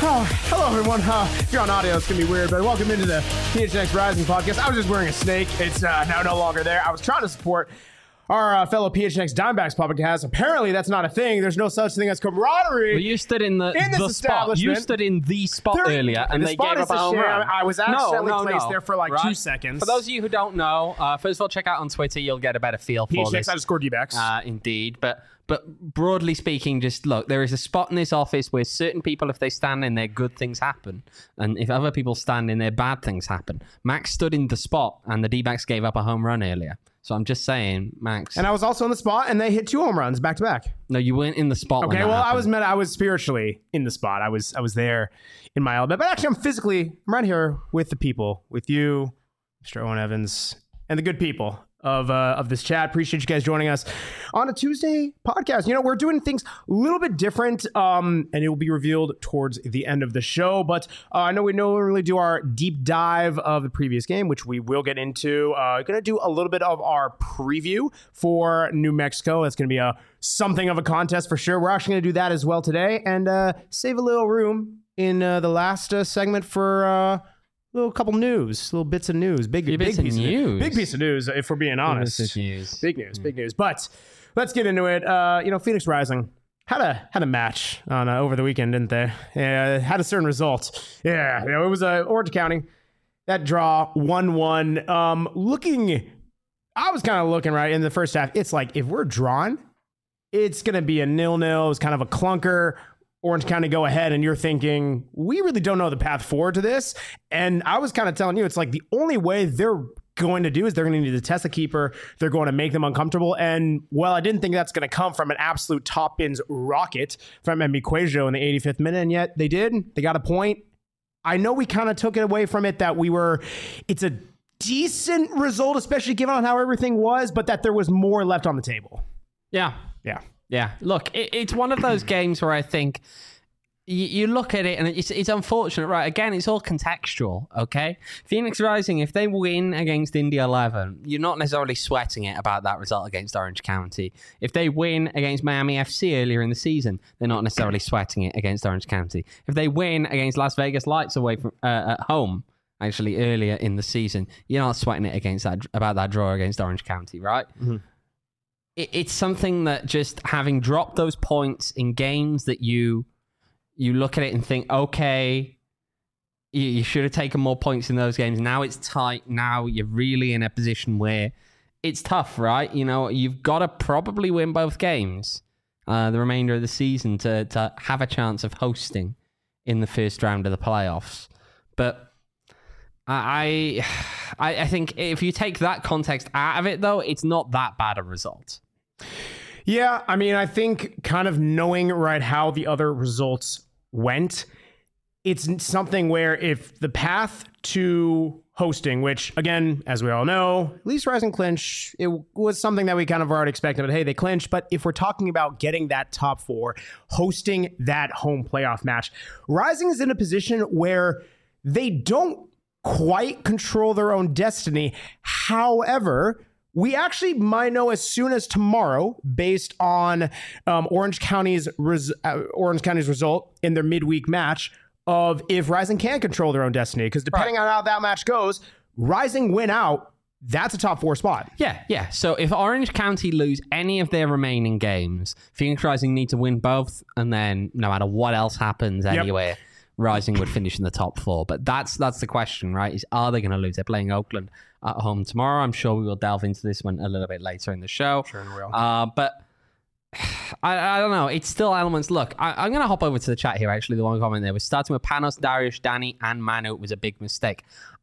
Hello, everyone. If you're on audio, it's going to be weird, but welcome into the PHNX Rising podcast. I was just wearing a snake. It's now no longer there. I was trying to support our fellow PHNX Dimebacks podcast. Apparently, that's not a thing. There's no such thing as camaraderie. Well, you stood in the spot. You stood in the spot earlier, and they gave up a home run. I was accidentally placed there for like 2 seconds. For those of you who don't know, first of all, check out on Twitter. You'll get a better feel for this. PHNX_Dbacks. Indeed, but broadly speaking, just look, there is a spot in this office where certain people, if they stand in there, good things happen. And if other people stand in there, bad things happen. Max stood in the spot, and the D-backs gave up a home run earlier. So I'm just saying, Max. And I was also in the spot, and they hit 2 home runs back to back. No, you weren't in the spot. Okay, well, I was spiritually in the spot. I was there in my element. But actually, I'm right here with the people, with you, Mr. Owen Evans, and the good people of this chat. Appreciate you guys joining us on a Tuesday podcast. You know, we're doing things a little bit different, and it will be revealed towards the end of the show. But I know we normally do our deep dive of the previous game, which we will get into. Going to do a little bit of our preview for New Mexico. It's going to be something of a contest for sure. We're actually going to do that as well today, and save a little room in the last segment for little couple news, little bits of news, big piece of news. Big piece of news, if we're being honest. Big news. But let's get into it. Phoenix Rising had a match on over the weekend, didn't they? Yeah, had a certain result. Yeah, it was Orange County. That draw 1-1. I was kind of looking right in the first half. It's like if we're drawn, it's gonna be a 0-0. It's kind of a clunker. Orange County go ahead, and you're thinking, we really don't know the path forward to this. And I was kind of telling you, it's like the only way they're going to do is they're going to need to test the keeper. They're going to make them uncomfortable. And, well, I didn't think that's going to come from an absolute top bins rocket from Emi Cuejo in the 85th minute, and yet they did. They got a point. I know we kind of took it away from it that it's a decent result, especially given on how everything was, but that there was more left on the table. Yeah, look, it's one of those games where I think you look at it and it's unfortunate, right? Again, it's all contextual, okay? Phoenix Rising, if they win against Indy 11, you're not necessarily sweating it about that result against Orange County. If they win against Miami FC earlier in the season, they're not necessarily sweating it against Orange County. If they win against Las Vegas Lights away from at home, actually earlier in the season, you're not sweating it about that draw against Orange County, right? Mm-hmm. It's something that just having dropped those points in games that you look at it and think, okay, you should have taken more points in those games. Now it's tight. Now you're really in a position where it's tough, right? You know, you've got to probably win both games the remainder of the season to have a chance of hosting in the first round of the playoffs. But I think if you take that context out of it, though, it's not that bad a result. Yeah, I mean, I think kind of knowing right how the other results went, it's something where if the path to hosting, which again, as we all know, at least Rising clinch, it was something that we kind of already expected, but hey, they clinched. But if we're talking about getting that top 4, hosting that home playoff match, Rising is in a position where they don't quite control their own destiny. However, we actually might know as soon as tomorrow, based on Orange County's result in their midweek match, of if Rising can control their own destiny. Because depending on how that match goes, Rising win out, that's a top 4 spot. Yeah. So if Orange County lose any of their remaining games, Phoenix Rising need to win both, and then no matter what else happens anywhere, Rising would finish in the top 4. But that's the question, right? Is are they going to lose? They're playing Oakland at home tomorrow. I'm sure we will delve into this one a little bit later in the show. Sure we will. But I don't know. It's still elements. Look, I'm going to hop over to the chat here, actually. The one comment there was starting with Panos, Darius, Danny, and Manu was a big mistake.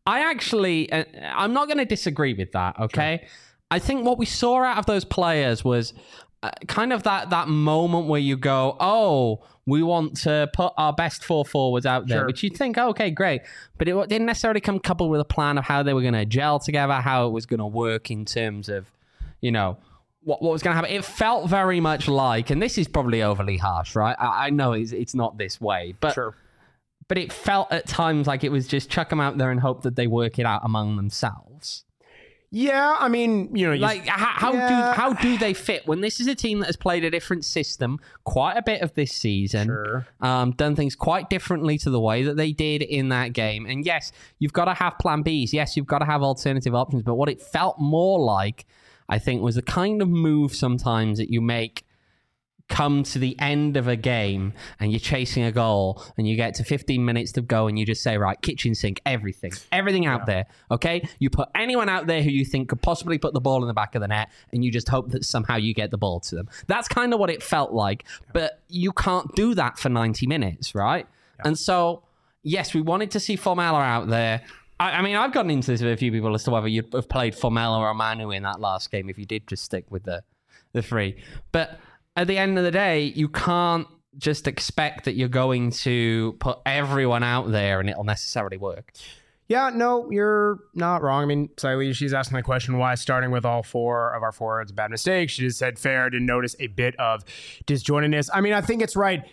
I'm not going to disagree with that, okay? Sure. I think what we saw out of those players was kind of that moment where you go, oh, we want to put our best 4 forwards out there, which you'd think, okay, great. But it didn't necessarily come coupled with a plan of how they were going to gel together, how it was going to work in terms of, what was going to happen. It felt very much like, and this is probably overly harsh, right? I know it's not this way, but but it felt at times like it was just chuck them out there and hope that they work it out among themselves. Yeah, I mean, like how do they fit when this is a team that has played a different system quite a bit of this season, Sure. Done things quite differently to the way that they did in that game. And yes, you've got to have plan Bs. Yes, you've got to have alternative options. But what it felt more like, I think, was the kind of move sometimes that you make come to the end of a game and you're chasing a goal and you get to 15 minutes to go and you just say, right, kitchen sink, everything out there, okay? You put anyone out there who you think could possibly put the ball in the back of the net and you just hope that somehow you get the ball to them. That's kind of what it felt like, but you can't do that for 90 minutes, right? Yeah. And so, yes, we wanted to see Formella out there. I mean, I've gotten into this with a few people as to whether you'd have played Formella or Manu in that last game if you did just stick with the three. But at the end of the day, you can't just expect that you're going to put everyone out there and it'll necessarily work. Yeah, no, you're not wrong. I mean, Saili, she's asking the question, why starting with all four of our forwards a bad mistake? She just said fair, didn't notice a bit of disjointedness. I mean, I think it's right.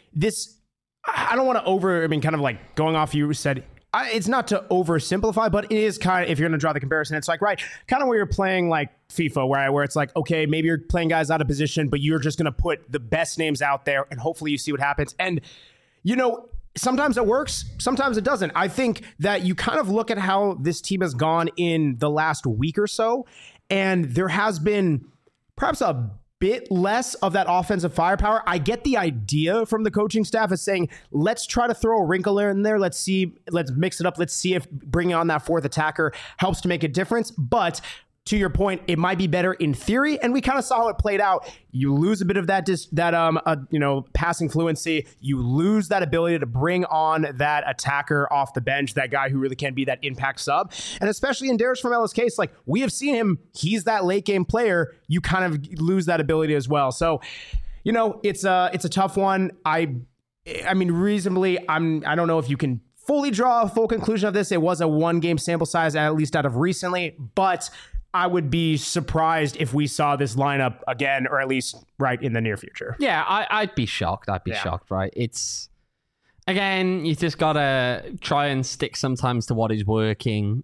I don't want to kind of like going off you said, it's not to oversimplify, but it is kind of, if you're going to draw the comparison, it's like, right, kind of where you're playing like FIFA, where it's like, okay, maybe you're playing guys out of position, but you're just going to put the best names out there and hopefully you see what happens. And, sometimes it works, sometimes it doesn't. I think that you kind of look at how this team has gone in the last week or so, and there has been perhaps a bit less of that offensive firepower. I get the idea from the coaching staff as saying, let's try to throw a wrinkle in there. Let's mix it up. Let's see if bringing on that fourth attacker helps to make a difference. But to your point, it might be better in theory, and we kind of saw how it played out. You lose a bit of that passing fluency. You lose that ability to bring on that attacker off the bench, that guy who really can be that impact sub. And especially in Darius Formella's case, like we have seen him, he's that late game player. You kind of lose that ability as well. So, it's a tough one. I mean, reasonably, I don't know if you can fully draw a full conclusion of this. It was a 1-game sample size, at least out of recently, but I would be surprised if we saw this lineup again, or at least right in the near future. Yeah, I'd be shocked. Shocked, right? It's, again, you just got to try and stick sometimes to what is working.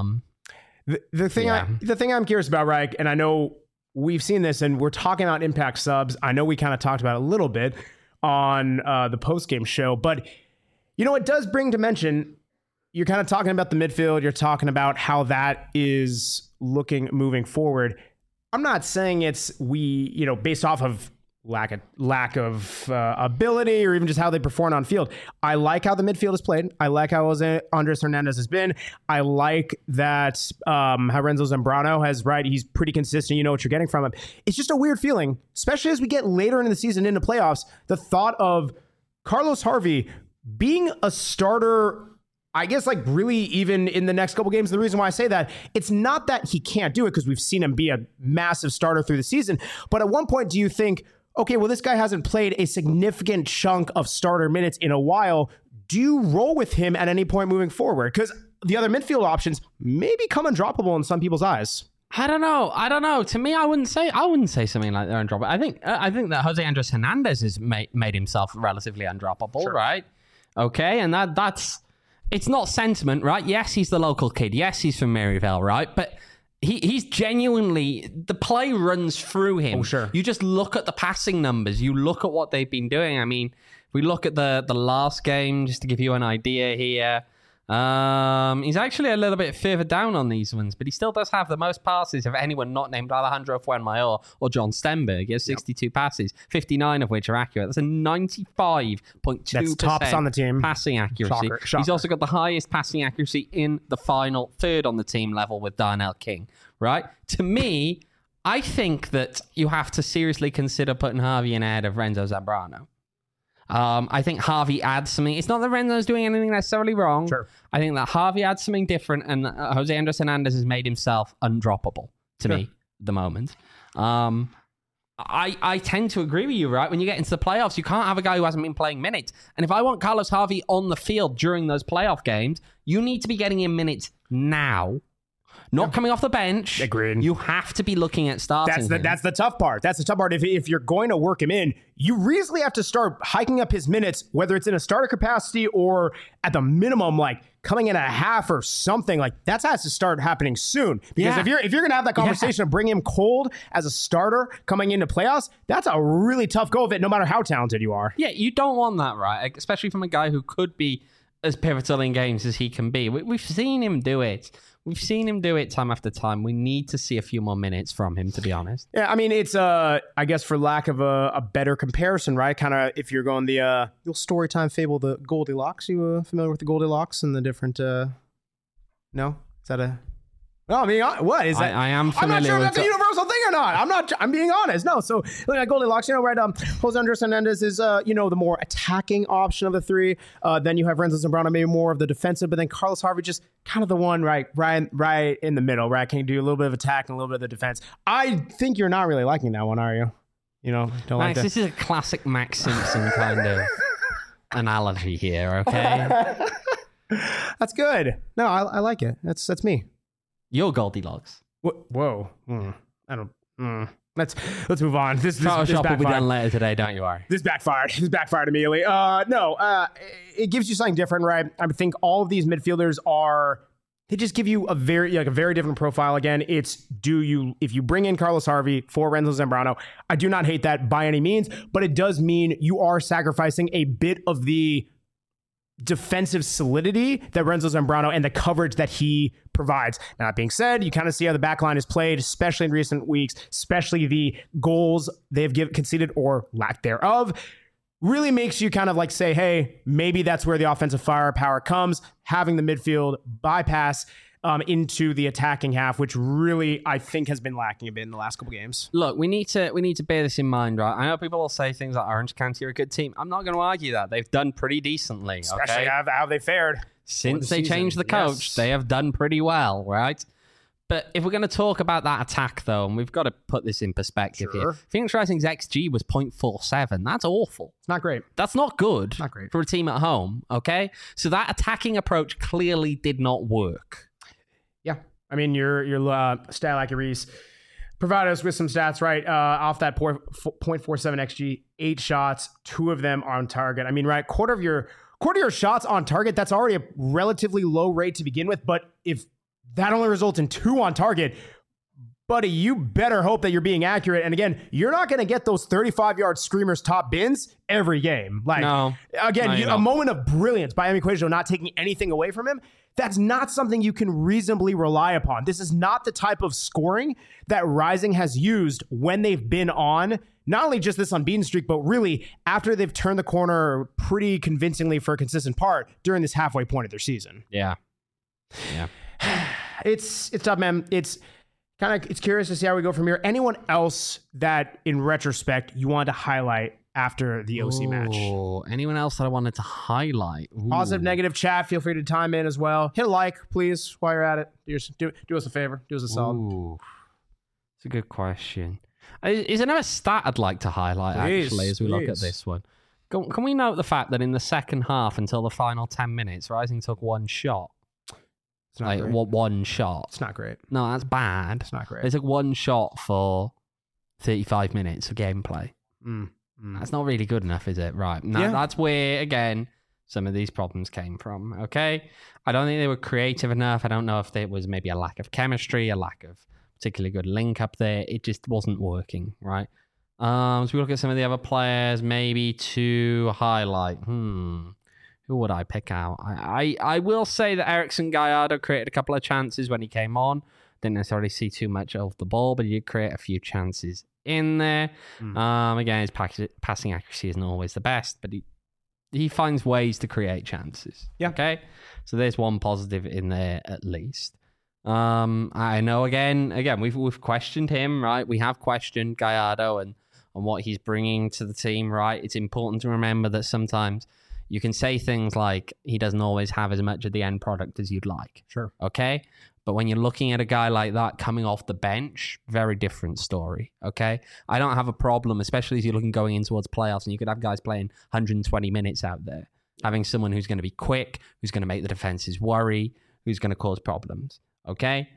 The thing I'm curious about, right, and I know we've seen this and we're talking about impact subs. I know we kind of talked about it a little bit on the post-game show, but, it does bring to mention, you're kind of talking about the midfield. You're talking about how that is looking moving forward. I'm not saying it's based off of lack of ability or even just how they perform on field. I like how the midfield is played. I like how Andres Hernandez has been. I like that how Renzo Zambrano has, right, he's pretty consistent. You know what you're getting from him. It's just a weird feeling, especially as we get later into the season, into playoffs, the thought of Carlos Harvey being a starter, I guess, like really even in the next couple games. The reason why I say that, it's not that he can't do it, because we've seen him be a massive starter through the season. But at one point, do you think, okay, well, this guy hasn't played a significant chunk of starter minutes in a while. Do you roll with him at any point moving forward? Because the other midfield options may become undroppable in some people's eyes. I don't know. To me, I wouldn't say something like they're undroppable. I think that Jose Andres Hernandez has made himself relatively undroppable, sure, right? Okay, and that's... It's not sentiment, right? Yes, he's the local kid. Yes, he's from Maryvale, right? But he's genuinely... The play runs through him. Oh, sure. You just look at the passing numbers. You look at what they've been doing. I mean, if we look at the last game, just to give you an idea here... he's actually a little bit further down on these ones, but he still does have the most passes of anyone not named Alejandro Fuenmayor or John Stenberg. He has 62 passes, 59 of which are accurate. That's a 95.2% That's tops on the team. Passing accuracy. Shocker. He's also got the highest passing accuracy in the final third on the team level with Darnell King, right? To me, I think that you have to seriously consider putting Harvey in ahead of Renzo Zambrano. I think Harvey adds something. It's not that Renzo's doing anything necessarily wrong. Sure. I think that Harvey adds something different, and Jose Andres Hernandez has made himself undroppable to me at the moment. I tend to agree with you, right? When you get into the playoffs, you can't have a guy who hasn't been playing minutes. And if I want Carlos Harvey on the field during those playoff games, you need to be getting him minutes now. Not coming off the bench. Agreed. You have to be looking at starting him. That's the tough part. That's the tough part. If you're going to work him in, you reasonably have to start hiking up his minutes, whether it's in a starter capacity or at the minimum, like coming in at a half or something. Like that has to start happening soon. Because if you're going to have that conversation of bring him cold as a starter coming into playoffs, that's a really tough go of it, no matter how talented you are. Yeah, you don't want that, right? Especially from a guy who could be as pivotal in games as he can be. We've seen him do it. We've seen him do it time after time. We need to see a few more minutes from him, to be honest. Yeah, I mean, it's, I guess, for lack of a better comparison, right? Kind of if you're going the little story time fable, the Goldilocks. You familiar with the Goldilocks and the different... No? Is that a... No, I mean, what is that? I am familiar I'm not sure if with that's a universal thing or not. I'm being honest. No, so looking at Goldilocks, right? Jose Andres Hernandez is, the more attacking option of the three. Then you have Renzo Zambrano, maybe more of the defensive, but then Carlos Harvey just kind of the one right in the middle, right? Can do a little bit of attack and a little bit of the defense. I think you're not really liking that one, are you? Don't Max, like that. this is a classic Max Simpson kind of analogy here, okay? That's good. No, I like it. That's me. You're Goldilocks. Whoa. I don't. Let's move on. This Photoshop will be done later today, don't you worry. This backfired. immediately. It gives you something different, right? I think all of these midfielders they just give you a very different profile. Again, it's if you bring in Carlos Harvey for Renzo Zambrano, I do not hate that by any means, but it does mean you are sacrificing a bit of the defensive solidity that Renzo Zambrano and the coverage that he provides. Now, that being said, you kind of see how the back line is played, especially in recent weeks, especially the goals they've conceded or lack thereof. Really makes you kind of like say, hey, maybe that's where the offensive firepower comes, having the midfield bypass into the attacking half, which really I think has been lacking a bit in the last couple games. Look, we need to bear this in mind, right? I know people will say things like Orange County are a good team. I'm not going to argue that. They've done pretty decently. Especially how they fared. Since they changed the coach, they have done pretty well, right? But if we're going to talk about that attack, though, and we've got to put this in perspective here. Phoenix Rising's XG was 0.47. That's awful. It's not great. That's not good. Not great. For a team at home, okay? So that attacking approach clearly did not work. Yeah. I mean, your stat accuracy provided us with some stats, right? Off that 0.47 XG, 8 shots, 2 of them are on target. I mean, right, quarter of your shots on target, that's already a relatively low rate to begin with. But if that only results in 2 on target, buddy, you better hope that you're being accurate. And again, you're not going to get those 35-yard screamers top bins every game. A moment of brilliance by Emi Cuejo, not taking anything away from him. That's not something you can reasonably rely upon. This is not the type of scoring that Rising has used when they've been on, not only just this unbeaten streak, but really after they've turned the corner pretty convincingly for a consistent part during this halfway point of their season. Yeah. It's tough, man. It's curious to see how we go from here. Anyone else that, in retrospect, you wanted to highlight after the OC match? Anyone else that I wanted to highlight? Positive, negative chat. Feel free to chime in as well. Hit a like, please, while you're at it. Do us a favor. Do us a solid. It's a good question. Is there another stat I'd like to highlight, actually, as we look at this one? Can we note the fact that in the second half, until the final 10 minutes, Rising took 1 shot? It's not great. One shot. It's not great. No, that's bad. It's not great. They took 1 shot for 35 minutes of gameplay. That's not really good enough, is it? Right. Now, that's where, again, some of these problems came from, okay? I don't think they were creative enough. I don't know if there was maybe a lack of chemistry, a lack of particularly good link up there. It just wasn't working, right? So we look at some of the other players, maybe to highlight. Who would I pick out? I will say that Erickson Gallardo created a couple of chances when he came on. Didn't necessarily see too much of the ball, but he did create a few chances in there. Again, his passing accuracy isn't always the best, but he finds ways to create chances. Yeah. Okay. So there's one positive in there at least. I know again we've questioned him, right? We have questioned Gallardo and what he's bringing to the team, right? It's important to remember that sometimes you can say things like he doesn't always have as much of the end product as you'd like. Sure. Okay. But when you're looking at a guy like that coming off the bench, very different story, okay? I don't have a problem, especially as you're looking going in towards playoffs, and you could have guys playing 120 minutes out there, having someone who's going to be quick, who's going to make the defenses worry, who's going to cause problems, okay?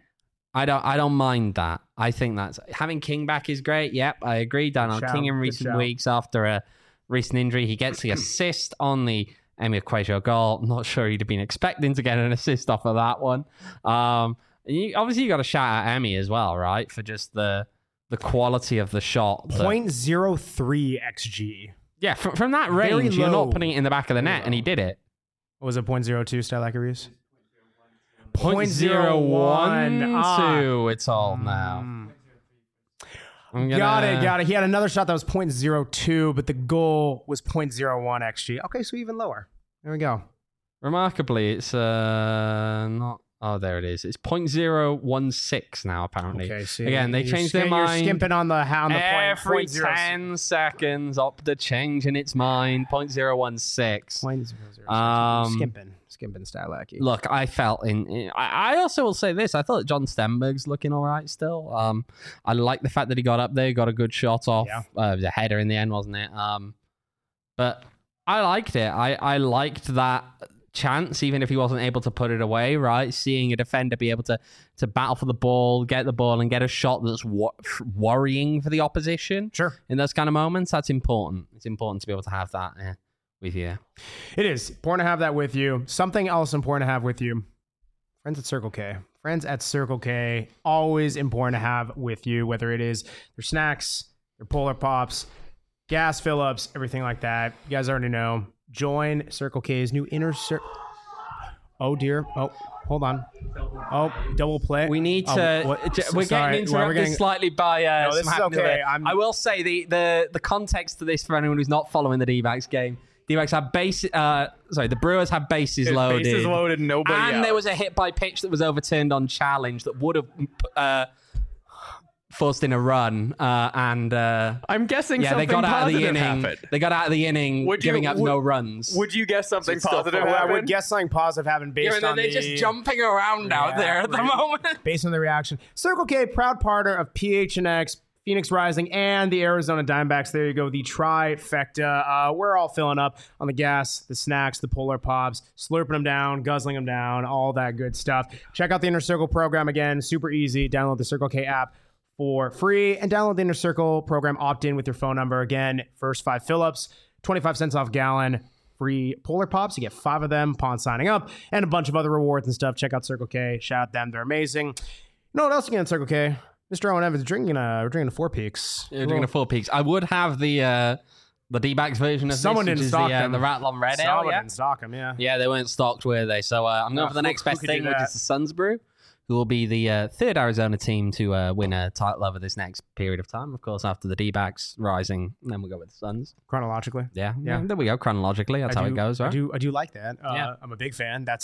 I don't mind that. I think that's having King back is great. Yep, I agree. Daniel King in recent weeks after a recent injury, he gets the assist on the Emi Equacio goal. I'm not sure he'd have been expecting to get an assist off of that one. Obviously, you got to shout out Emi as well, right? For just the quality of the shot. 0.03 XG. Yeah, from that range, you're not putting it in the back of the net, and he did it. What was it, 0.02, Stylacarius? 0.012. It's all now. Got it. He had another shot that was 0.02, but the goal was 0.01 XG. Okay, so even lower. There we go. Remarkably, it's not... Oh, there it is. It's 0.016 now, apparently. Okay, so again, they changed their mind. You're skimping on the every 10 seconds. Opta changing its mind. 0.016. Skimping Stylacky. Look, I felt I also will say this. I thought John Stenberg's looking all right still. I like the fact that he got up there, got a good shot off. Yeah. It was a header in the end, wasn't it? But I liked it. I liked that chance, even if he wasn't able to put it away, right? Seeing a defender be able to battle for the ball, get the ball, and get a shot that's worrying for the opposition. Sure. In those kind of moments, that's important. It's important to be able to have that with you. It is important to have that with you. Something else important to have with you. Friends at Circle K. Friends at Circle K, always important to have with you, whether it is their snacks, their Polar Pops, gas fill-ups, everything like that. You guys already know. Join Circle K's new inner circle. Oh, dear. Oh, hold on. Oh, double play. We need to... we're getting interrupted slightly by... no, this is okay. I will say the context to this for anyone who's not following the D-backs game. D-backs have the Brewers have bases loaded. Bases loaded, nobody And out. there was a hit by pitch that was overturned on challenge that would have... forced in a run, and I'm guessing they something got out of the positive inning. happened. They got out of the inning, giving up no runs. Would you guess something positive happened? I would guess something positive happened based on they're just jumping around out there at the moment. Based on the reaction. Circle K, proud partner of PHNX, Phoenix Rising, and the Arizona Diamondbacks. There you go, the trifecta. We're all filling up on the gas, the snacks, the Polar Pops, slurping them down, guzzling them down, all that good stuff. Check out the Inner Circle program again. Super easy. Download the Circle K app for free and download the Inner Circle program. Opt in with your phone number. Again, first 5 fill-ups, 25 cents off gallon, free Polar Pops. You get 5 of them upon signing up, and a bunch of other rewards and stuff. Check out Circle K. Shout out them. They're amazing. You know what else you get in Circle K? Mr. Owen Evans drinking a Four Peaks. Yeah, drinking a Four Peaks. I would have the D-backs version of Someone this, didn't stock them. The Rattlon Red Ale. Someone didn't stock them, yeah. Yeah, they weren't stocked, were they? So I'm going for the next best thing, which is the Suns Brew, who will be the third Arizona team to win a title over this next period of time. Of course, after the D-backs Rising, and then we'll go with the Suns. Chronologically? Yeah. There we go. Chronologically, that's how it goes, right? I do like that. I'm a big fan. That's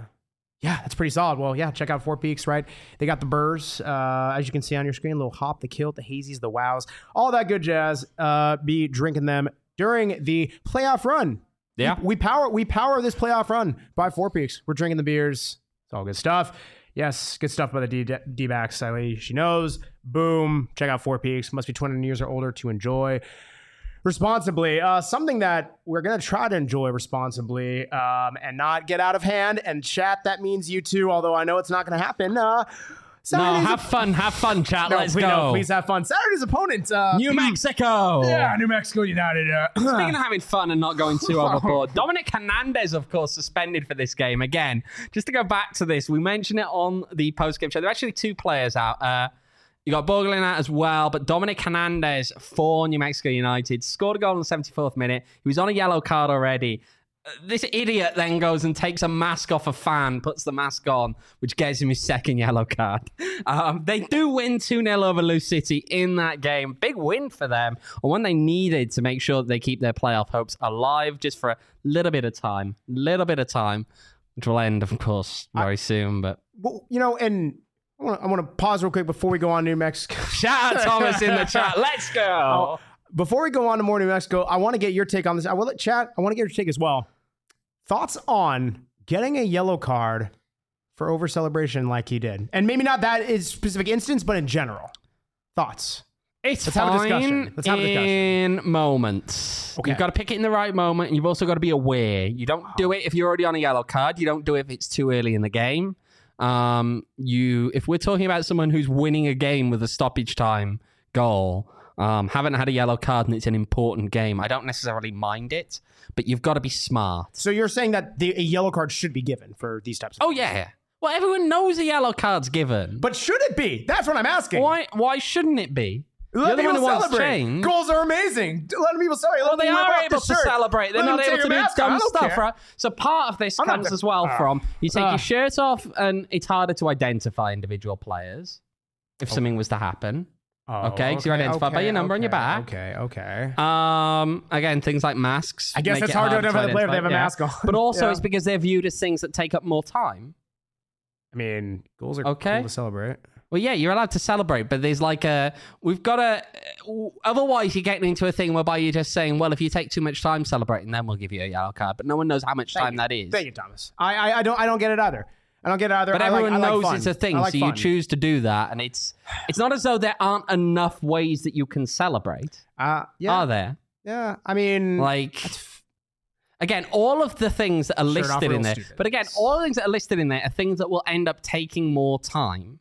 pretty solid. Well, yeah, check out Four Peaks, right? They got the burrs, as you can see on your screen, a little hop, the kilt, the hazies, the wows, all that good jazz. Be drinking them during the playoff run. Yeah. We power this playoff run by Four Peaks. We're drinking the beers. It's all good stuff. Yes, good stuff by the D-backs. She knows. Boom. Check out Four Peaks. Must be 21 years or older to enjoy responsibly. Something that we're going to try to enjoy responsibly and not get out of hand. And chat, that means you too, although I know it's not going to happen. Have fun, chat. Let's go. Please have fun. Saturday's opponent. New Mexico. Yeah, New Mexico United. Speaking of having fun and not going too overboard, Dominic Hernandez, of course, suspended for this game. Again, just to go back to this, we mentioned it on the post-game show. There are actually 2 players out. You got Borgelin out as well, but Dominic Hernandez for New Mexico United scored a goal in the 74th minute. He was on a yellow card already. This idiot then goes and takes a mask off a fan, puts the mask on, which gets him his second yellow card. They do win 2-0 over Lou City in that game. Big win for them, or one they needed to make sure that they keep their playoff hopes alive just for a little bit of time, which will end, of course, very soon. But well, and I want to pause real quick before we go on New Mexico. Shout out Thomas in the chat. Let's go. Before we go on to more New Mexico, I want to get your take on this. I will let chat. I want to get your take as well. Thoughts on getting a yellow card for over celebration like he did, and maybe not that is specific instance, but in general. Thoughts. Let's have a discussion in moments. Okay. You've got to pick it in the right moment, and you've also got to be aware. You don't do it if you're already on a yellow card. You don't do it if it's too early in the game. If we're talking about someone who's winning a game with a stoppage time goal, haven't had a yellow card and it's an important game, I don't necessarily mind it, but you've got to be smart. So you're saying that a yellow card should be given for these types of Oh, yeah. Well, everyone knows a yellow card's given. But should it be? That's what I'm asking. Why shouldn't it be? Let You're the one people who wants celebrate. change. Goals are amazing. Let people celebrate. Well, they are able to celebrate. They're not able to do dumb stuff, right? So part of this comes as well from you take your shirt off, and it's harder to identify individual players if something was to happen. Okay, because you're identified by your number on your back. Okay. Again, things like masks. I guess make it's it hard to identify the player if they have a yeah. mask on. But also, it's because they're viewed as things that take up more time. I mean, goals are Okay. cool to celebrate. Well, yeah, you're allowed to celebrate, but there's like we've got to, otherwise you're getting into a thing whereby you're just saying, well, if you take too much time celebrating, then we'll give you a yellow card, but no one knows how much time that is. Thank you, Thomas. I don't get it either. I don't get it either. But everyone knows it's a thing, so fun. you choose to do that, and it's not as though there aren't enough ways that you can celebrate. Yeah. Are there? Yeah. I mean, Like, again, all of the things that are Shirt off listed real in there, stupid. but again, all the things that are listed in there are things that will end up taking more time.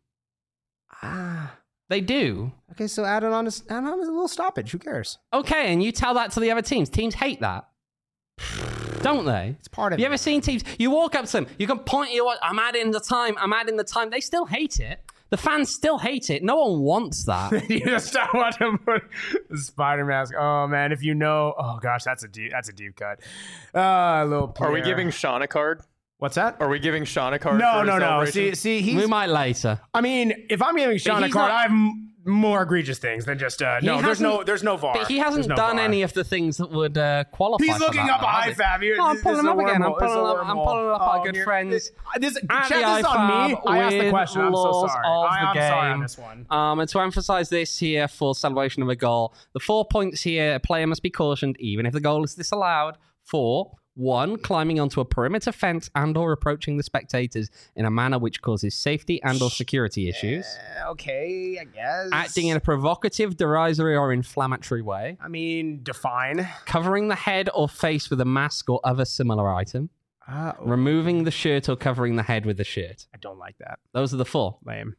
They do. Okay, so add on a little stoppage. Who cares? Okay, and you tell that to the other teams. Teams hate that. Don't they? It's part of You it. ever seen teams? You walk up to them, you can point your, I'm adding the time. They still hate it. The fans still hate it. No one wants that. You just start watching put the spider mask. Oh man, if you know, oh gosh, that's a deep cut. Little Pierre. Are we giving Sean a card? What's that? Are we giving Sean a card? No, for no, no. celebration? See, We he's. might later. I mean, if I'm giving Sean a he's card, not- I have more egregious things than just no. There's no VAR. But he hasn't There's no done VAR. any of the things that would qualify. He's for looking that, up though, a has he? IFAB. No, I'm pulling him up again. I'm pulling up our good here. friends. This, at chat, the this is on me. IFAB I asked the with question. I'm so laws sorry. of the I'm sorry on game. this one. And to emphasize this here for celebration of a goal, the 4 points here, a player must be cautioned even if the goal is disallowed for 1, climbing onto a perimeter fence and or approaching the spectators in a manner which causes safety and or security issues. Okay, I guess. Acting in a provocative, derisory or inflammatory way. I mean, define. Covering the head or face with a mask or other similar item. Removing the shirt or covering the head with the shirt. I don't like that. Those are the 4. Lame.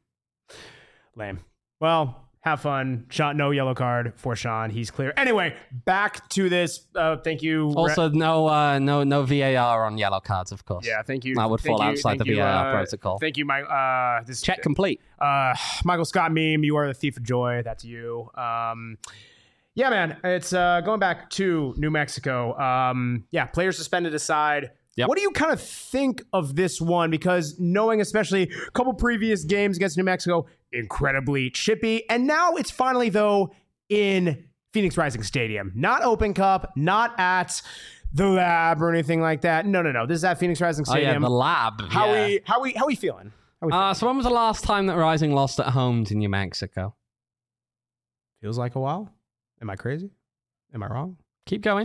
Well, have fun. Sean, no yellow card for Sean. He's clear. Anyway, back to this. Thank you. Also, no VAR on yellow cards, of course. Yeah, thank you. That would fall outside the VAR protocol. Thank you, Mike. This Check complete. Michael Scott meme. You are the thief of joy. That's you. Yeah, man. It's going back to New Mexico. Yeah, players suspended aside. Yep. What do you kind of think of this one? Because knowing especially a couple previous games against New Mexico, incredibly chippy. And now it's finally, though, in Phoenix Rising Stadium. Not Open Cup, not at the Lab or anything like that. No. This is at Phoenix Rising Oh, yeah, Stadium. the Lab. How yeah. we feeling? So when was the last time that Rising lost at home to New Mexico? Feels like a while. Am I crazy? Am I wrong? Keep going.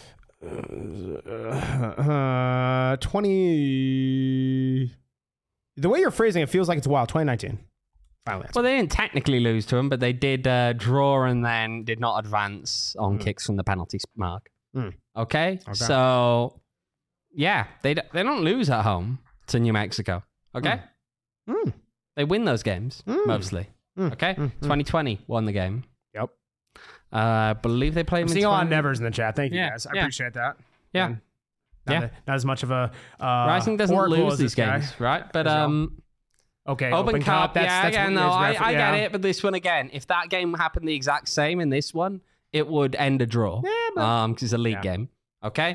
20. The way you're phrasing it feels like it's a while. 2019. Finally. Well, they didn't technically lose to him, but they did draw and then did not advance on kicks from the penalty mark. Okay? So, yeah, they don't lose at home to New Mexico. Okay? They win those games, mostly. Okay? 2020 won the game. Yep. I believe they played I'm him seeing in a lot of 20. nevers in the chat. Thank you, Yeah, guys. I yeah. appreciate that. Yeah. And Yeah. Not as much of a Rising doesn't oracle lose as these this guy. games, right? But Okay. Open Cup, That's yeah, again, what no, his I reference- get yeah. it. But this one again, if that game happened the exact same in this one, it would end a draw. Yeah, because it's a league Yeah. game. Okay.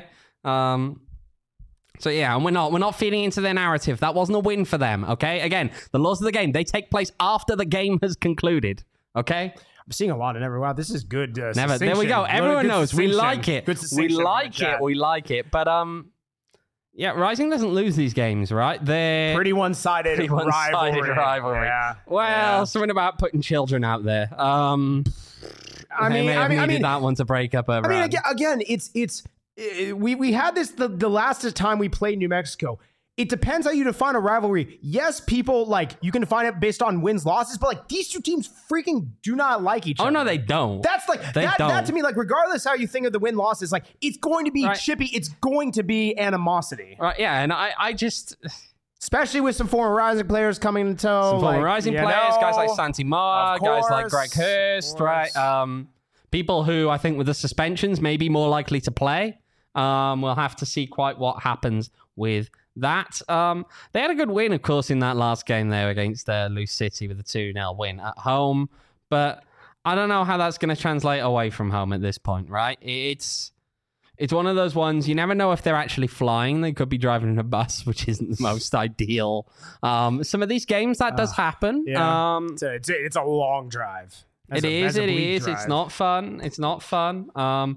So yeah, and we're not feeding into their narrative. That wasn't a win for them. Okay. Again, the laws of the game, they take place after the game has concluded. Okay. I'm seeing a lot of never. Wow, this is good. Never. There we go. Everyone knows we like it. Good We like it. We like it. But yeah, Rising doesn't lose these games, right? They're Pretty one-sided rivalry. Yeah. Well, something about putting children out there. I may have needed that one to break up a I mean, again, we had this the last time we played New Mexico. It depends how you define a rivalry. Yes, people you can define it based on wins, losses, but these two teams freaking do not like each other. Oh no, they don't. That's that to me, regardless how you think of the win losses, it's going to be chippy. It's going to be animosity. Right? Yeah, and I just Especially with some former Rising players coming into tow. Some former Rising players, guys like Santi Mar, Of guys like course, Greg Hurst, right? People who I think with the suspensions may be more likely to play. We'll have to see quite what happens with that. They had a good win, of course, in that last game there against Loose City with a 2-0 win at home. But I don't know how that's going to translate away from home at this point, right? It's one of those ones, you never know if they're actually flying. They could be driving in a bus, which isn't the most ideal. Some of these games, that does happen. Yeah. It's a long drive. It is. It's not fun. It's not fun.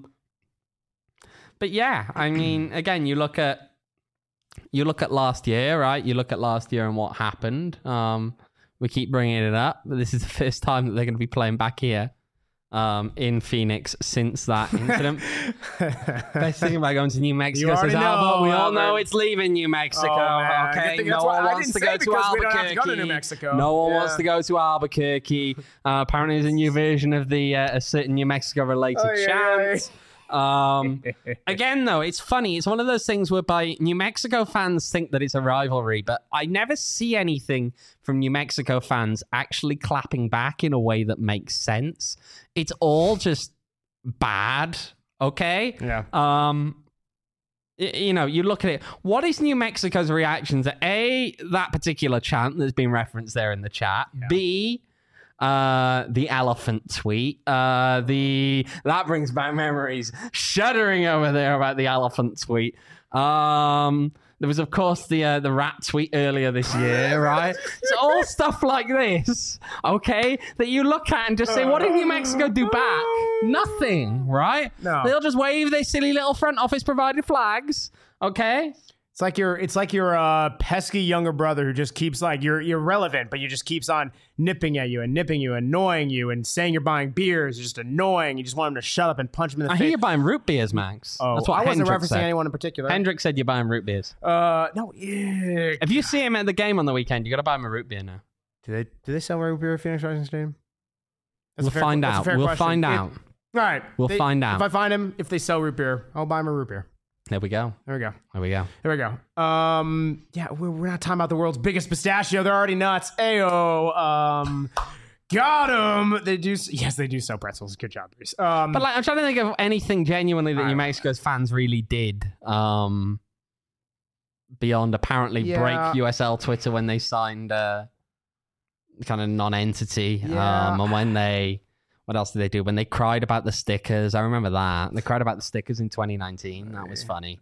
But yeah, I mean, again, you look at last year, right? You look at last year and what happened. We keep bringing it up, but this is the first time that they're going to be playing back here in Phoenix since that incident. Best thing about going to New Mexico, says Albert. We all know it's leaving New Mexico. Okay, no one wants to go to Albuquerque. No one wants to go to Albuquerque. Apparently, there's a new version of a certain New Mexico-related chant. Again, though, it's funny. It's one of those things whereby New Mexico fans think that it's a rivalry, but I never see anything from New Mexico fans actually clapping back in a way that makes sense. It's all just bad, okay? Yeah. You look at it. What is New Mexico's reaction to that particular chant that's been referenced there in the chat? Yeah. B, the elephant tweet. That brings back memories. Shuddering over there about the elephant tweet. There was, of course, the rat tweet earlier this year, right? It's all stuff like this, okay, that you look at and just say, what did New Mexico do back? Nothing, right? No. They'll just wave their silly little front office provided flags, okay? It's like your pesky younger brother who just keeps you're relevant, but you just keeps on nipping at you and annoying you and saying you're buying beers. You're just annoying. You just want him to shut up and punch him in the face. I hear you're buying root beers, Max. Oh, that's what I wasn't Hendrick referencing said. anyone in particular. Hendrick said you're buying root beers. No. Yeah. If you see him at the game on the weekend, you got to buy him a root beer now. Do they sell root beer at Phoenix Rising Stadium? We'll find out. We'll find out. All right. We'll find out. If I find him, if they sell root beer, I'll buy him a root beer. There we go. There we go. There we go. There we go. Yeah, we're not talking about the world's biggest pistachio. They're already nuts. Ayo. Got them. They do sell pretzels. Good job, Bruce. But I'm trying to think of anything genuinely that New Mexico's fans really did. Beyond apparently break USL Twitter when they signed kind of non-entity. Yeah. And when they... What else did they do? When they cried about the stickers. I remember that. They cried about the stickers in 2019. That was funny.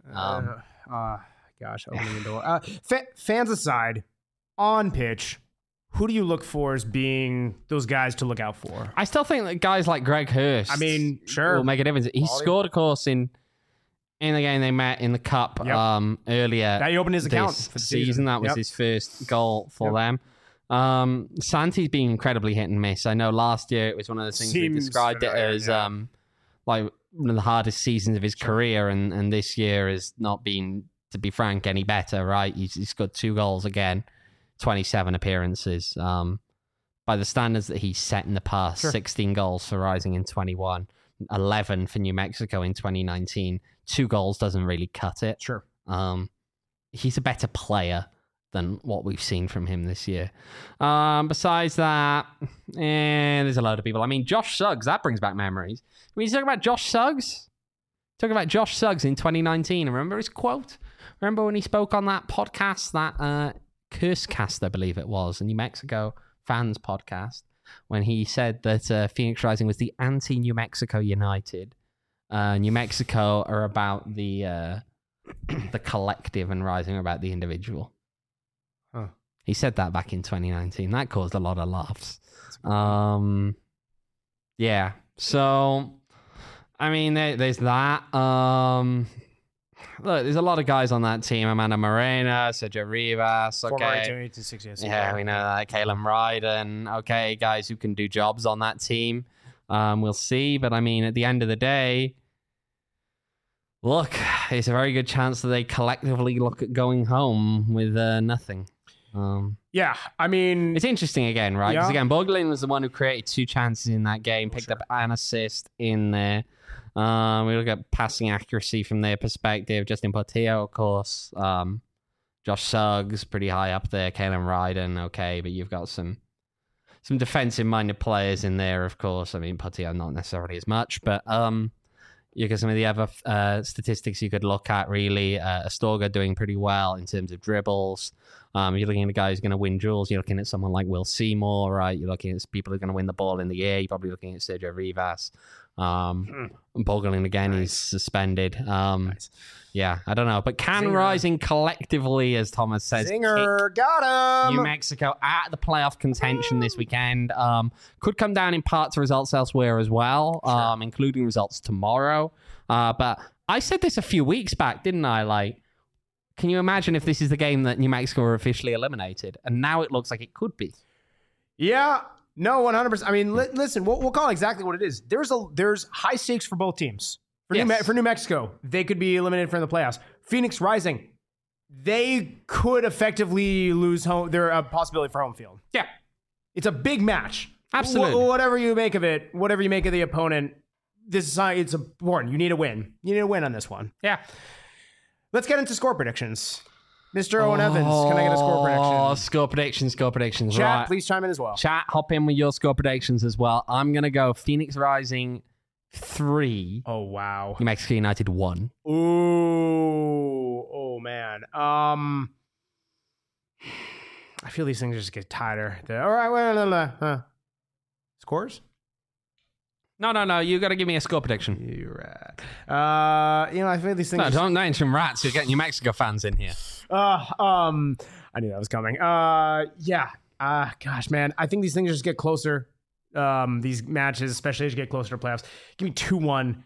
Gosh, opening the door. Fans aside, on pitch, who do you look for as being those guys to look out for? I still think that guys like Greg Hurst, sure, will make a difference. He scored, of course, in the game they met in the cup earlier. That he opened his account for the season. That was his first goal for them. Santi's been incredibly hit and miss. I know last year it was one of the things we described it as like one of the hardest seasons of his career, and this year has not been, to be frank, any better, right? He's got 2 goals again, 27 appearances. By the standards that he's set in the past, 16 goals for Rising in 21, 11 for New Mexico in 2019. 2 goals doesn't really cut it. Sure. He's a better player than what we've seen from him this year. Besides that, there's a load of people. I mean, Josh Suggs, that brings back memories. When you talk about Josh Suggs, in 2019, remember his quote? Remember when he spoke on that podcast, that Cursecast, I believe it was, a New Mexico fans podcast, when he said that Phoenix Rising was the anti-New Mexico United. New Mexico are about the collective, and Rising are about the individual. Huh. He said that back in 2019. That caused a lot of laughs. Yeah. So, I mean, there's that. Look, there's a lot of guys on that team. Amanda Morena, Sergio Rivas. Okay. Yeah, we know that. Kalen Ryden. Okay, guys who can do jobs on that team. We'll see. But, I mean, at the end of the day, look, it's a very good chance that they collectively look at going home with nothing. Yeah, I mean, it's interesting again, right? Because again, Boglin was the one who created 2 chances in that game, picked up an assist in there. We look at passing accuracy from their perspective. Justin Portillo, of course, Josh Suggs, pretty high up there. Kalen Ryden, okay, but you've got some defensive-minded players in there, of course. I mean, Putty not necessarily as much, but you got some of the other statistics you could look at, really. Astorga doing pretty well in terms of dribbles. You're looking at a guy who's going to win duels. You're looking at someone like Will Seymour, right? You're looking at people who are going to win the ball in the air. You're probably looking at Sergio Rivas. Boggling again, he's suspended. Nice. Yeah, I don't know. But can Zinger. Rising collectively, as Thomas says, Zinger, got him. New Mexico at the playoff contention this weekend. Could come down in part to results elsewhere as well, including results tomorrow. But I said this a few weeks back, didn't I? Like, can you imagine if this is the game that New Mexico are officially eliminated? And now it looks like it could be. Yeah. No, 100%. I mean, listen, we'll call it exactly what it is. There's high stakes for both teams. For New Mexico, they could be eliminated from the playoffs. Phoenix Rising, they could effectively lose their possibility for home field. Yeah. It's a big match. Absolutely. Whatever you make of it, whatever you make of the opponent, it's important. You need a win. You need a win on this one. Yeah. Let's get into score predictions. Mr. Owen Evans, can I get a score prediction? Score predictions. Chat, Right. please chime in as well. Chat, hop in with your score predictions as well. I'm going to go Phoenix Rising 3. Oh, wow. New Mexico United 1. Ooh. Oh, man. I feel these things just get tighter. All right. Wait. Scores? No. You got to give me a score prediction. You're right. I feel these things. No, don't mention rats. You're getting New Mexico fans in here. I knew that was coming. Yeah. Gosh, man. I think these things just get closer. These matches, especially as you get closer to playoffs. Give me 2-1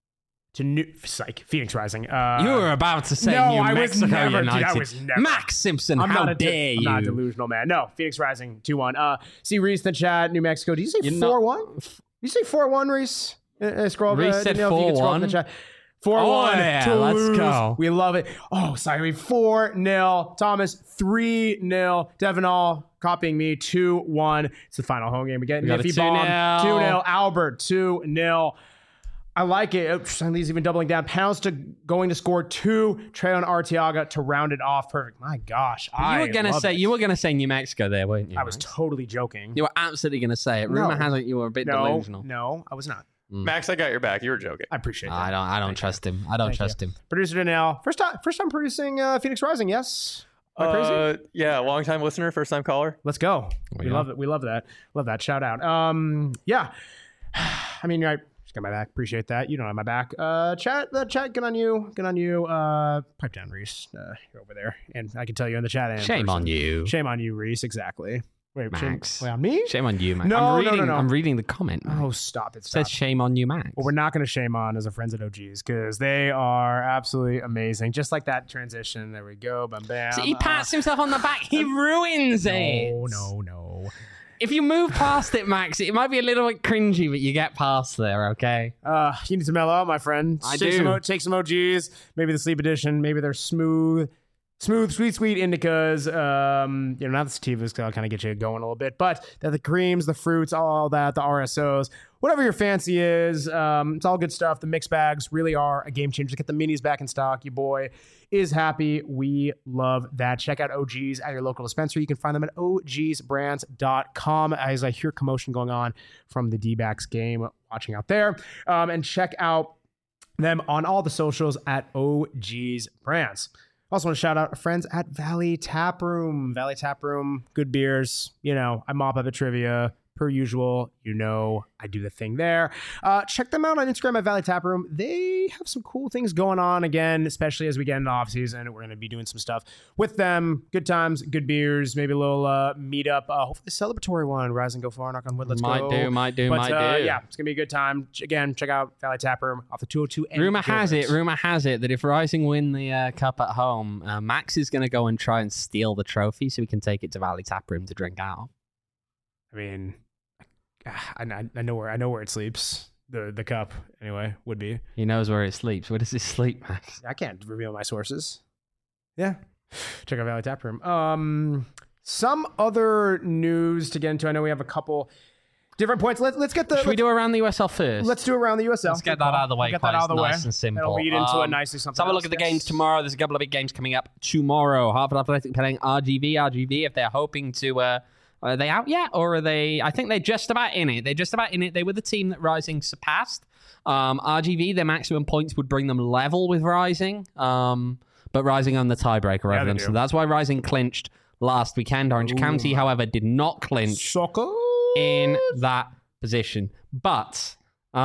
to Phoenix Rising. You were about to say no, New I was Mexico never, United. dude, I was never. Max Simpson, how dare you? I'm not a delusional, man. No, Phoenix Rising 2-1. See Reese in the chat, New Mexico. Did you say 4-1? You say 4-1, Reese? Scroll. Reese said 4-1. 4-1. Oh, yeah, Toulouse. let's go. We love it. Oh, sorry. 4-0. Thomas, 3-0. Devin All copying me, 2-1. It's the final home game. We get got a Niffy Bomb, 2-0. 2-0. Albert, 2-0. I like it. He's even doubling down. Pounds going to score 2. Treyon Arteaga to round it off. Perfect. My gosh. You were gonna say New Mexico there, weren't you? I was totally joking. You were absolutely gonna say it. Rumor has it you were a bit delusional. No, I was not. Max, I got your back. You were joking. I appreciate that. I don't trust him. I don't trust him. Producer Danielle, first time producing Phoenix Rising. Yes. Am I crazy? Yeah, long time listener, first time caller. Let's go. We love it. We love that. Love that. Shout out. Yeah. I mean, I just got my back. Appreciate that. You don't have my back. Chat. Good on you. Good on you. Pipe down, Reese. You're over there, and I can tell you in the chat. And Shame on you. Shame on you, Reese. Exactly. Wait, Max. Shame on me? Shame on you, Max. No, I'm reading the comment. Max. Oh, stop it. It says shame on you, Max. What we're not going to shame on is our friends at OGs because they are absolutely amazing. Just like that transition. There we go. Bam, bam. So he pats himself on the back. He ruins it. No. If you move past it, Max, it might be a little bit cringy, but you get past there, okay? You need to mellow out, my friend. Take some OGs. Maybe the sleep edition. Maybe they're smooth, sweet indicas. Now the sativas kind of get you going a little bit, but they're the creams, the fruits, all that, the RSOs, whatever your fancy is. It's all good stuff. The mix bags really are a game changer. Get the minis back in stock. Your boy is happy. We love that. Check out OGs at your local dispensary. You can find them at ogsbrands.com as I hear commotion going on from the D-backs game. Watching out there. And check out them on all the socials at OGs Brands. Also want to shout out our friends at Valley Tap Room. Valley Tap Room, good beers. I mop up at trivia per usual. I do the thing there. Check them out on Instagram at Valley Tap Room. They have some cool things going on again, especially as we get into off season. We're going to be doing some stuff with them. Good times, good beers, maybe a little meetup. Hopefully a celebratory one. Rise and go far, knock on wood. Let's go. Might do. Yeah, it's going to be a good time. Again, check out Valley Tap Room off the 202. Rumor has it that if Rising win the cup at home, Max is going to go and try and steal the trophy so we can take it to Valley Tap Room to drink out. I mean, I know where it sleeps. The cup, anyway, would be. He knows where it sleeps. Where does it sleep, Max? I can't reveal my sources. Yeah. Check out Valley Tap Room. Some other news to get into. I know we have a couple Different points. Let's get the. Should we do around the USL first? Let's do around the USL. Let's get that out of the way. Get that out of the way. Nice and simple. That'll lead into it nicely. Let's have a look at the games tomorrow. There's a couple of big games coming up tomorrow. Harvard Athletic playing RGV. RGV, if they're hoping to. Are they out yet, or are they? I think they're just about in it. They're just about in it. They were the team that Rising surpassed. RGV, their maximum points would bring them level with Rising, but Rising on the tiebreaker over them. So that's why Rising clinched last weekend. Orange County, however, did not clinch in that position. But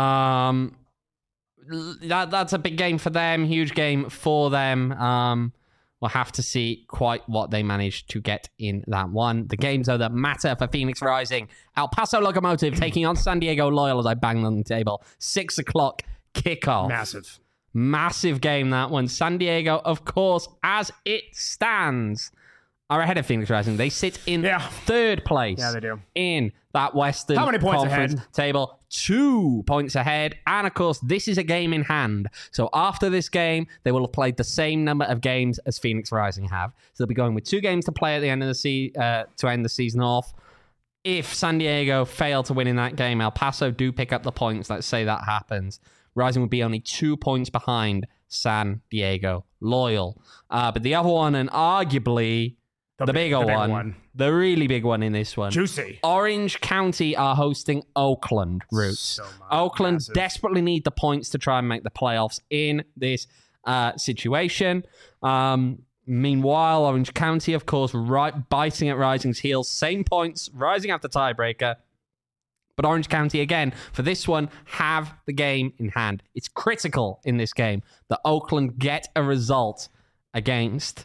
that's a big game for them, huge game for them. We'll have to see quite what they managed to get in that one. The games, though, that matter for Phoenix Rising. El Paso Locomotive taking on San Diego Loyal as I bang on the table. 6 o'clock kickoff. Massive game, that one. San Diego, of course, as it stands, are ahead of Phoenix Rising. They sit in third place. Yeah, they do. In that Western How many points Conference ahead? table. 2 points ahead. And, of course, this is a game in hand. So after this game, they will have played the same number of games as Phoenix Rising have. So they'll be going with 2 games to play at the end of the to end the season off. If San Diego fail to win in that game, El Paso do pick up the points. Let's say that happens. Rising would be only 2 points behind San Diego Loyal. But the other one, and arguably the bigger one, the really big one in this one. Juicy. Orange County are hosting Oakland Roots. So Oakland massive. desperately need the points to try and make the playoffs in this situation. Meanwhile, Orange County, of course, biting at Rising's heels. Same points, Rising after tiebreaker. But Orange County, again, for this one, have the game in hand. It's critical in this game that Oakland get a result against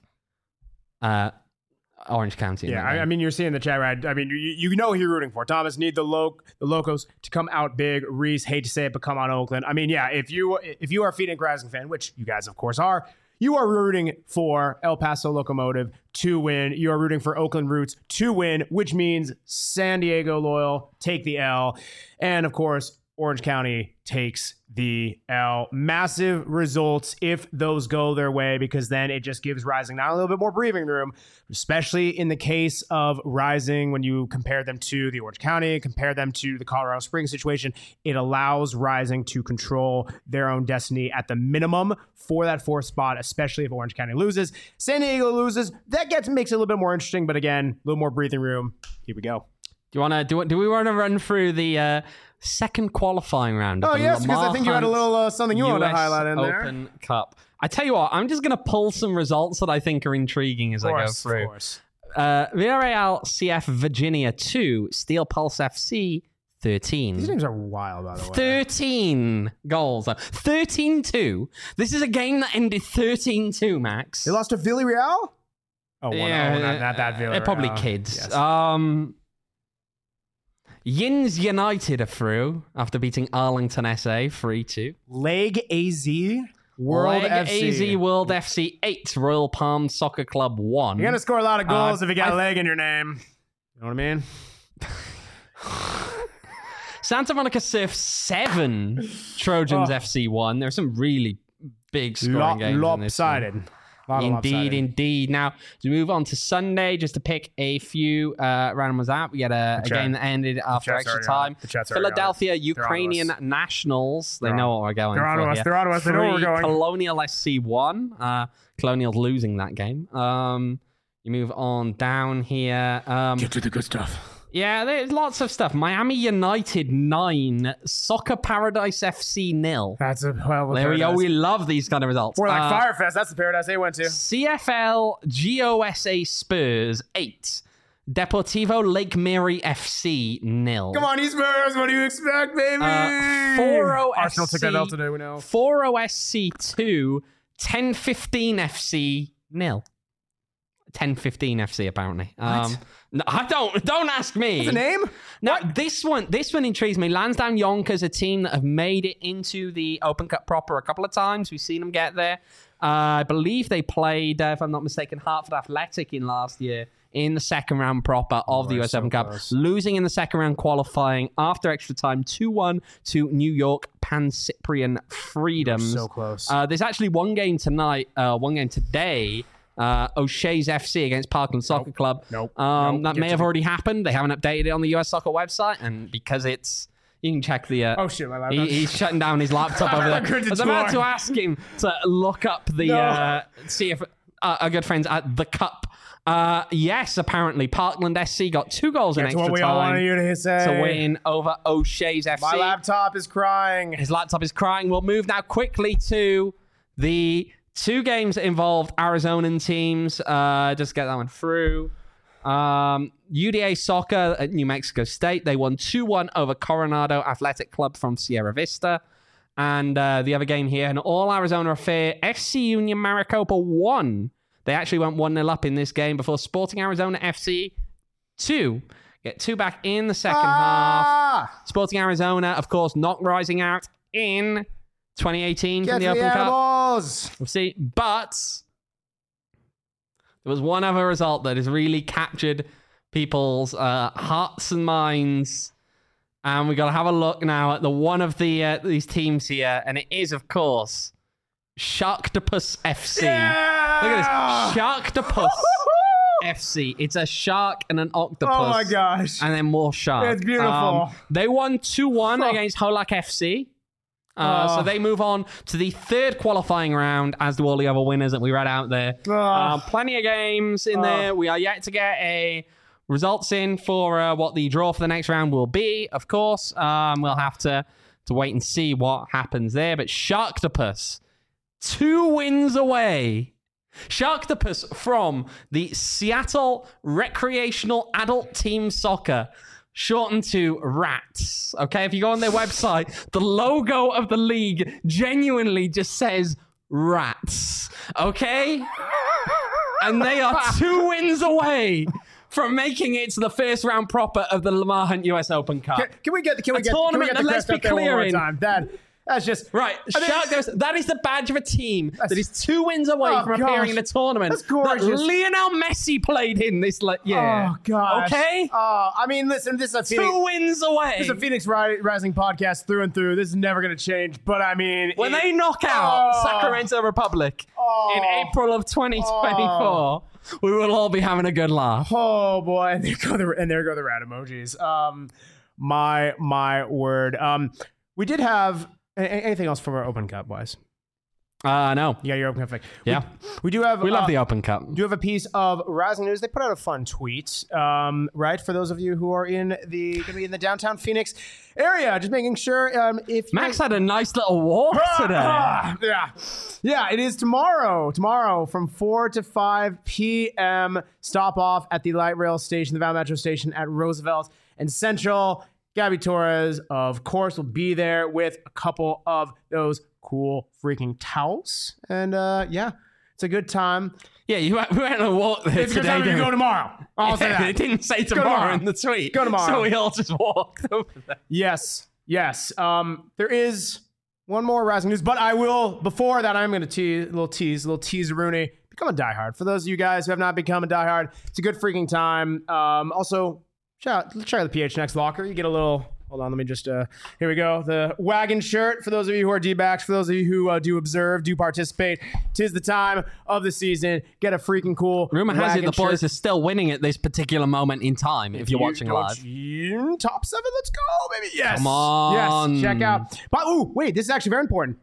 Orange County. Yeah, I mean, you're seeing the chat, right? I mean, you know who you're rooting for. Thomas, need the Locos to come out big. Reese, hate to say it, but come on, Oakland. I mean, yeah, if you are a Phoenix Rising fan, which you guys, of course, are, you are rooting for El Paso Locomotive to win. You are rooting for Oakland Roots to win, which means San Diego Loyal take the L. And, of course, Orange County takes the L. Massive results if those go their way, because then it just gives Rising not a little bit more breathing room, especially in the case of Rising when you compare them to the Orange County, compare them to the Colorado Springs situation. It allows Rising to control their own destiny at the minimum for that 4th spot, especially if Orange County loses. San Diego loses. That makes it a little bit more interesting, but again, a little more breathing room. Here we go. Do we want to run through the second qualifying round? Oh, yes, because I think you had a little something you wanted to highlight in there. Open Cup. I tell you what, I'm just going to pull some results that I think are intriguing as I go through. Of course. Villarreal CF Virginia 2, Steel Pulse FC 13. These names are wild, by the way. 13 goals. 13-2. This is a game that ended 13-2, Max. They lost to Villarreal? Oh, Yeah, not that Villarreal. They're probably kids. Yes. Yins United are through after beating Arlington SA 3-2. Leg AZ World Leg FC. AZ World FC 8, Royal Palm Soccer Club 1. You're going to score a lot of goals if you got leg in your name. You know what I mean? Santa Monica Surf 7, Trojans FC 1. There are some really big scoring games in this one. Lopsided. Indeed. Now, to move on to Sunday, just to pick a few random ones out, we had a game that ended after extra time. Philadelphia Ukrainian Nationals. They know what we're going They're for. on to us. They're on to us. They know where we're going. Colonial SC 1. Colonial's losing that game. You move on down here. Get to the good stuff. Yeah, there's lots of stuff. Miami United 9, Soccer Paradise FC 0. That's a There we go. We love these kind of results. More like Firefest. That's the paradise they went to. CFL GOSA Spurs 8, Deportivo Lake Mary FC 0. Come on, Spurs. What do you expect, baby? 4-0 Arsenal SC, took that L today, we know. 4-0 SC 2, 10-15 FC 0. 10-15 FC apparently. No, I don't ask me. What's the name? Now this one intrigues me. Lansdowne Yonkers, a team that have made it into the Open Cup proper a couple of times. We've seen them get there. I believe they played, if I'm not mistaken, Hartford Athletic in last year in the second round proper of the US Open Cup, losing in the second round qualifying after extra time 2-1 to New York Pan Cyprian Freedoms. So close. There's actually one game today O'Shea's FC against Parkland Soccer Club. Nope. That may have already happened. They haven't updated it on the US Soccer website, and because it's... You can check the... oh, shit, my laptop. He's shutting down his laptop over there. I was about to ask him to look up the... see if our good friends at The Cup. Yes, apparently. Parkland SC got 2 goals in extra what we all time wanted you to say. to win over O'Shea's FC. My laptop is crying. His laptop is crying. We'll move now quickly to the 2 games that involved Arizonan teams. Just get that one through. UDA Soccer at New Mexico State. They won 2-1 over Coronado Athletic Club from Sierra Vista. And the other game here, an all-Arizona affair. FC Union Maricopa won. They actually went 1-0 up in this game before Sporting Arizona FC 2. Get 2 back in the second half. Sporting Arizona, of course, not rising out in 2018 from the Open Cup. We'll see. But there was one other result that has really captured people's hearts and minds. And we've got to have a look now at the one of these teams here. And it is, of course, Sharktopus FC. Yeah! Look at this. Sharktopus FC. It's a shark and an octopus. Oh my gosh. And then more sharks. It's beautiful. They won 2-1 against Holak FC. So they move on to the 3rd qualifying round, as do all the other winners that we read out there. Plenty of games in there. We are yet to get a results in for what the draw for the next round will be, of course. We'll have to wait and see what happens there. But Sharktopus, 2 wins away. Sharktopus from the Seattle Recreational Adult Team Soccer, shortened to RATS. Okay, if you go on their website, the logo of the league genuinely just says RATS. Okay? And they are 2 wins away from making it to the first round proper of the Lamar Hunt US Open Cup. Can we get the tournament crest let's be up there one more clear in. time? That's just right. That is the badge of a team that is 2 wins away from appearing in a tournament. That's gorgeous. That Lionel Messi played in this year. Oh gosh. Okay. I mean, listen, this is a Phoenix, 2 wins away. This is a Phoenix Rising podcast through and through. This is never going to change. But I mean, when they knock out Sacramento Republic in April of 2024. We will all be having a good laugh. Oh boy, and there go the rat emojis. My word. We did have anything else from our Open Cup wise? No. You got your Open Cup thing. Yeah. We do have. We love the Open Cup. Do you have a piece of Rising News? They put out a fun tweet, right? For those of you who are going to be in the downtown Phoenix area, just making sure if Max had a nice little walk today. Yeah. It is tomorrow from 4 to 5 p.m. Stop off at the light rail station, the Val Metro station at Roosevelt and Central. Gabby Torres, of course, will be there with a couple of those cool freaking towels. And it's a good time. Yeah, we went on a walk there It's a good time to go tomorrow. I'll say that. It didn't say tomorrow in the tweet. Go tomorrow. So we all just walked over there. Yes. There is one more Rising News, but I will, before that, I'm going to tease, a little teaser-rooney. Become a diehard. For those of you guys who have not become a diehard, it's a good freaking time. Also, check out the PHNX locker. You get a little... Hold on, let me just, here we go. The wagon shirt, for those of you who are D-backs, for those of you who do observe, do participate, 'tis the time of the season. Get a freaking cool Rumor has it the boys shirt. are still winning at this particular moment in time, if you're watching live. Top 7, let's go, baby. Yes. Come on. Yes, check out. But, wait, this is actually very important.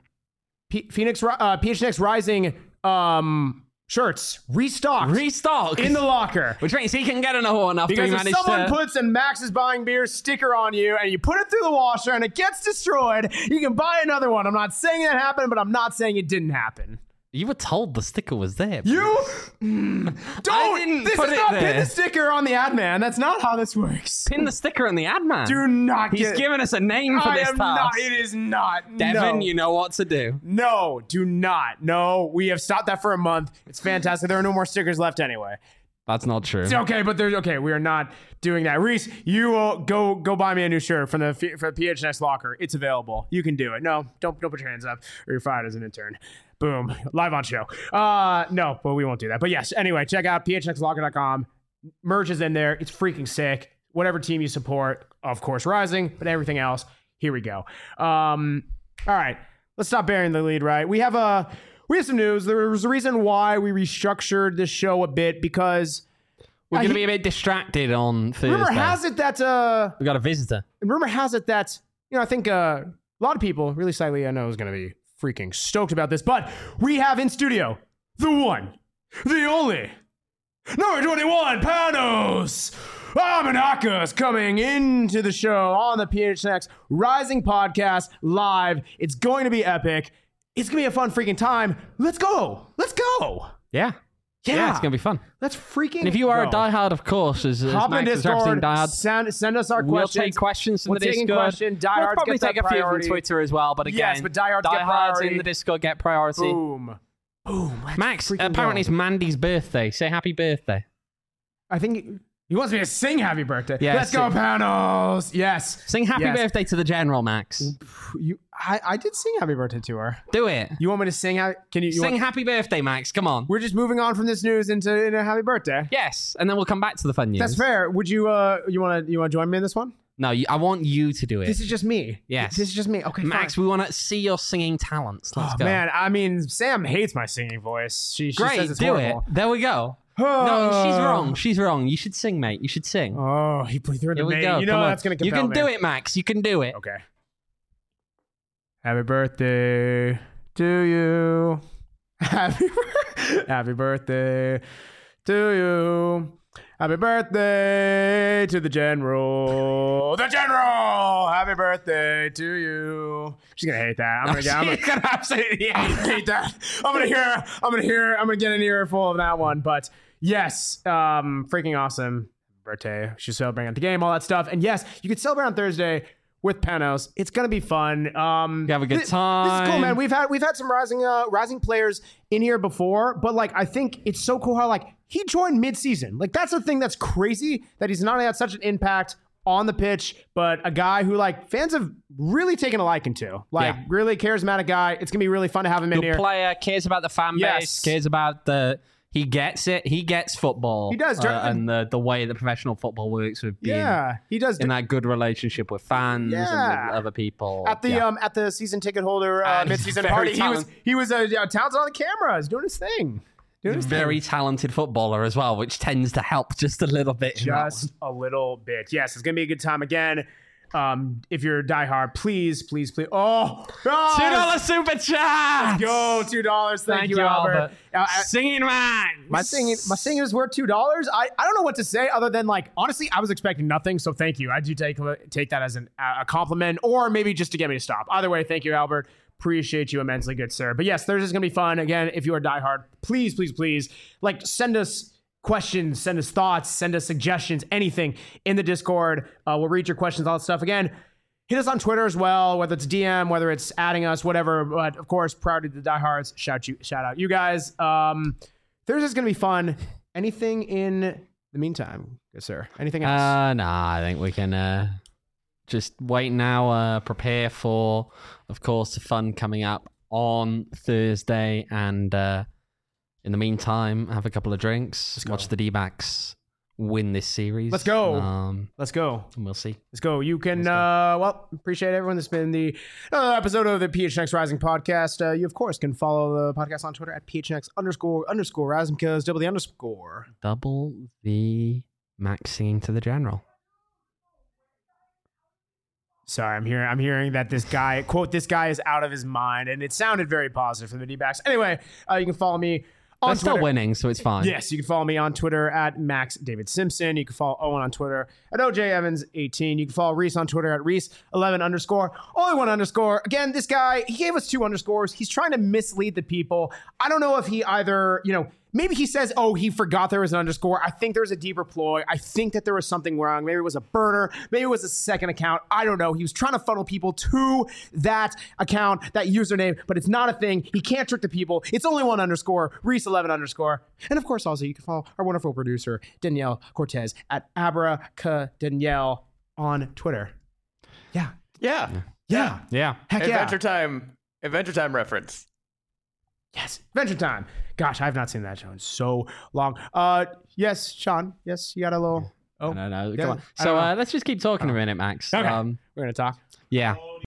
PHNX Rising shirts restocked in the locker, which means he can get another one after because he if managed someone to... puts a Max is buying beer sticker on you and you put it through the washer and it gets destroyed, you can buy another one. I'm not saying that happened, but I'm not saying it didn't happen. You were told the sticker was there. You I don't. didn't This put is it not there. pin the sticker on the ad man. That's not how this works. Pin the sticker on the ad man. Do not. He's given us a name for I this am task. not. It is not. Devin, no. you know what to do. No, do not. No, we have stopped that for a month. It's fantastic. There are no more stickers left anyway. That's not true. It's okay, but there's okay. We are not doing that. Reese, you will go buy me a new shirt from the PHNX locker. It's available. You can do it. No, don't put your hands up, or you're fired as an intern. Boom, live on show. No, but we won't do that. But yes, anyway, check out phnxlocker.com. Merch is in there. It's freaking sick. Whatever team you support, of course, Rising, but everything else, here we go. All right, let's stop burying the lead. Right, we have a we have some news. There was a reason why we restructured this show a bit because We're going to be a bit distracted on Thursday. rumor has it that we got a visitor. I think a lot of people, really slightly, I know, is going to be freaking stoked about this, but we have in studio the one, the only, number 21, Panos Amanakis coming into the show on the PHNX Rising Podcast live. It's going to be epic. It's going to be a fun freaking time. Let's go. Let's go. Yeah. Yeah, it's going to be fun. Let's freaking And if you are go. a diehard, of course, as Hop in Max is Discord, diehard, send us our we'll questions. take questions from We're the taking Discord. questions. We'll Diehards probably get that take a few from priority. Twitter as well, but again, Yes, but diehards get diehards priority. in the Discord get priority. Boom. Boom. Let's Max, freaking apparently go. it's Mandy's birthday. Say happy birthday. I think he wants me to sing happy birthday. Yeah, Let's go, sing. Panos. Yes. Sing happy Yes. birthday to the General, Max. I did sing happy birthday to her. Do it. You want me to sing? Can you Sing want, happy birthday, Max. Come on. We're just moving on from this news into a happy birthday. Yes, and then we'll come back to the fun news. That's fair. Would you you want to join me in this one? No, I want you to do it. This is just me. Yes. This is just me. Okay, Max, fine. we want to see your singing talents. Let's Oh, go. man, I mean, Sam hates my singing voice. She Great, says it's do horrible. it. There we go. No, she's wrong. She's wrong. You should sing, mate. You should sing. Oh, he threw Here the we name. go. You Come know on. that's going to You compel can me. do it, Max. You can do it. Okay. Happy birthday to you. Happy birthday to you. Happy birthday to the General. The General. Happy birthday to you. She's gonna hate that. I'm gonna absolutely hate that. I'm gonna get an earful of that one. But yes, freaking awesome birthday. She's celebrating at the game, all that stuff. And yes, you could celebrate on Thursday with Panos. It's gonna be fun. Have a good time. This is cool, man. We've had some rising players in here before, but like I think it's so cool how like he joined mid-season. Like that's the thing that's crazy, that he's not only had such an impact on the pitch, but a guy who like fans have really taken a liking to. Like Yeah. really charismatic guy. It's gonna be really fun to have him in Good here. player, cares about the fan base, Yes. cares about he gets it. He gets football. He does. And the way that professional football works with being Yeah, he does. in that good relationship with fans and Yeah. with other people. At the Yeah. at the season ticket holder And mid-season very party, talented. he was talented on the camera. He's doing his thing. He's a very talented footballer as well, which tends to help just a little bit. in that one. Just a little bit. Yes, it's gonna be a good time again. If you're a diehard, please. Oh, $2 super chat. Go $2. Thank you, Albert. Singing man. My singing is worth $2. I don't know what to say other than like honestly, I was expecting nothing. So thank you. I do take that as a compliment, or maybe just to get me to stop. Either way, thank you, Albert. Appreciate you immensely, good sir. But yes, Thursday's gonna be fun. Again, if you are diehard, please, like send us questions, send us thoughts, send us suggestions, anything in the Discord. We'll read your questions, all that stuff. Again, hit us on Twitter as well, whether it's DM, whether it's adding us, whatever. But of course, proud to the diehards. Shout out you guys. Thursday's gonna be fun. Anything in the meantime, good sir? Anything else? Nah, I think we can just wait now, prepare for, of course, the fun coming up on Thursday, and in the meantime, have a couple of drinks, watch the D-backs win this series. Let's go. Let's go. You can, appreciate everyone. This has been the episode of the PHNX Rising podcast. You, of course, can follow the podcast on Twitter at PHNX__Rising, because double the underscore. Double the Max singing to the General. Sorry, I'm hearing that this guy, quote, this guy is out of his mind, and it sounded very positive from the D-backs. Anyway, you can follow me on They're Twitter. still winning, so it's fine. Yes, you can follow me on Twitter at Max David Simpson. You can follow Owen on Twitter at OJ Evans 18. You can follow Reese on Twitter at Reese11_. Only one underscore. Again, this guy, he gave us 2 underscores. He's trying to mislead the people. I don't know if he either, maybe he says, oh, he forgot there was an underscore. I think there's a deeper ploy. I think that there was something wrong. Maybe it was a burner. Maybe it was a second account. I don't know. He was trying to funnel people to that account, that username, but it's not a thing. He can't trick the people. It's only one underscore, Reese11_. And of course, also, you can follow our wonderful producer, Danielle Cortez, at Abracadanielle on Twitter. Yeah. Yeah. Heck yeah. Adventure Time reference. Yes, Adventure Time. Gosh, I have not seen that show in so long. Yes, Sean. Yes, you got a little. Oh, No. yeah, Come on. I So don't know. let's just keep talking a minute, Max. Okay. We're gonna talk. Yeah.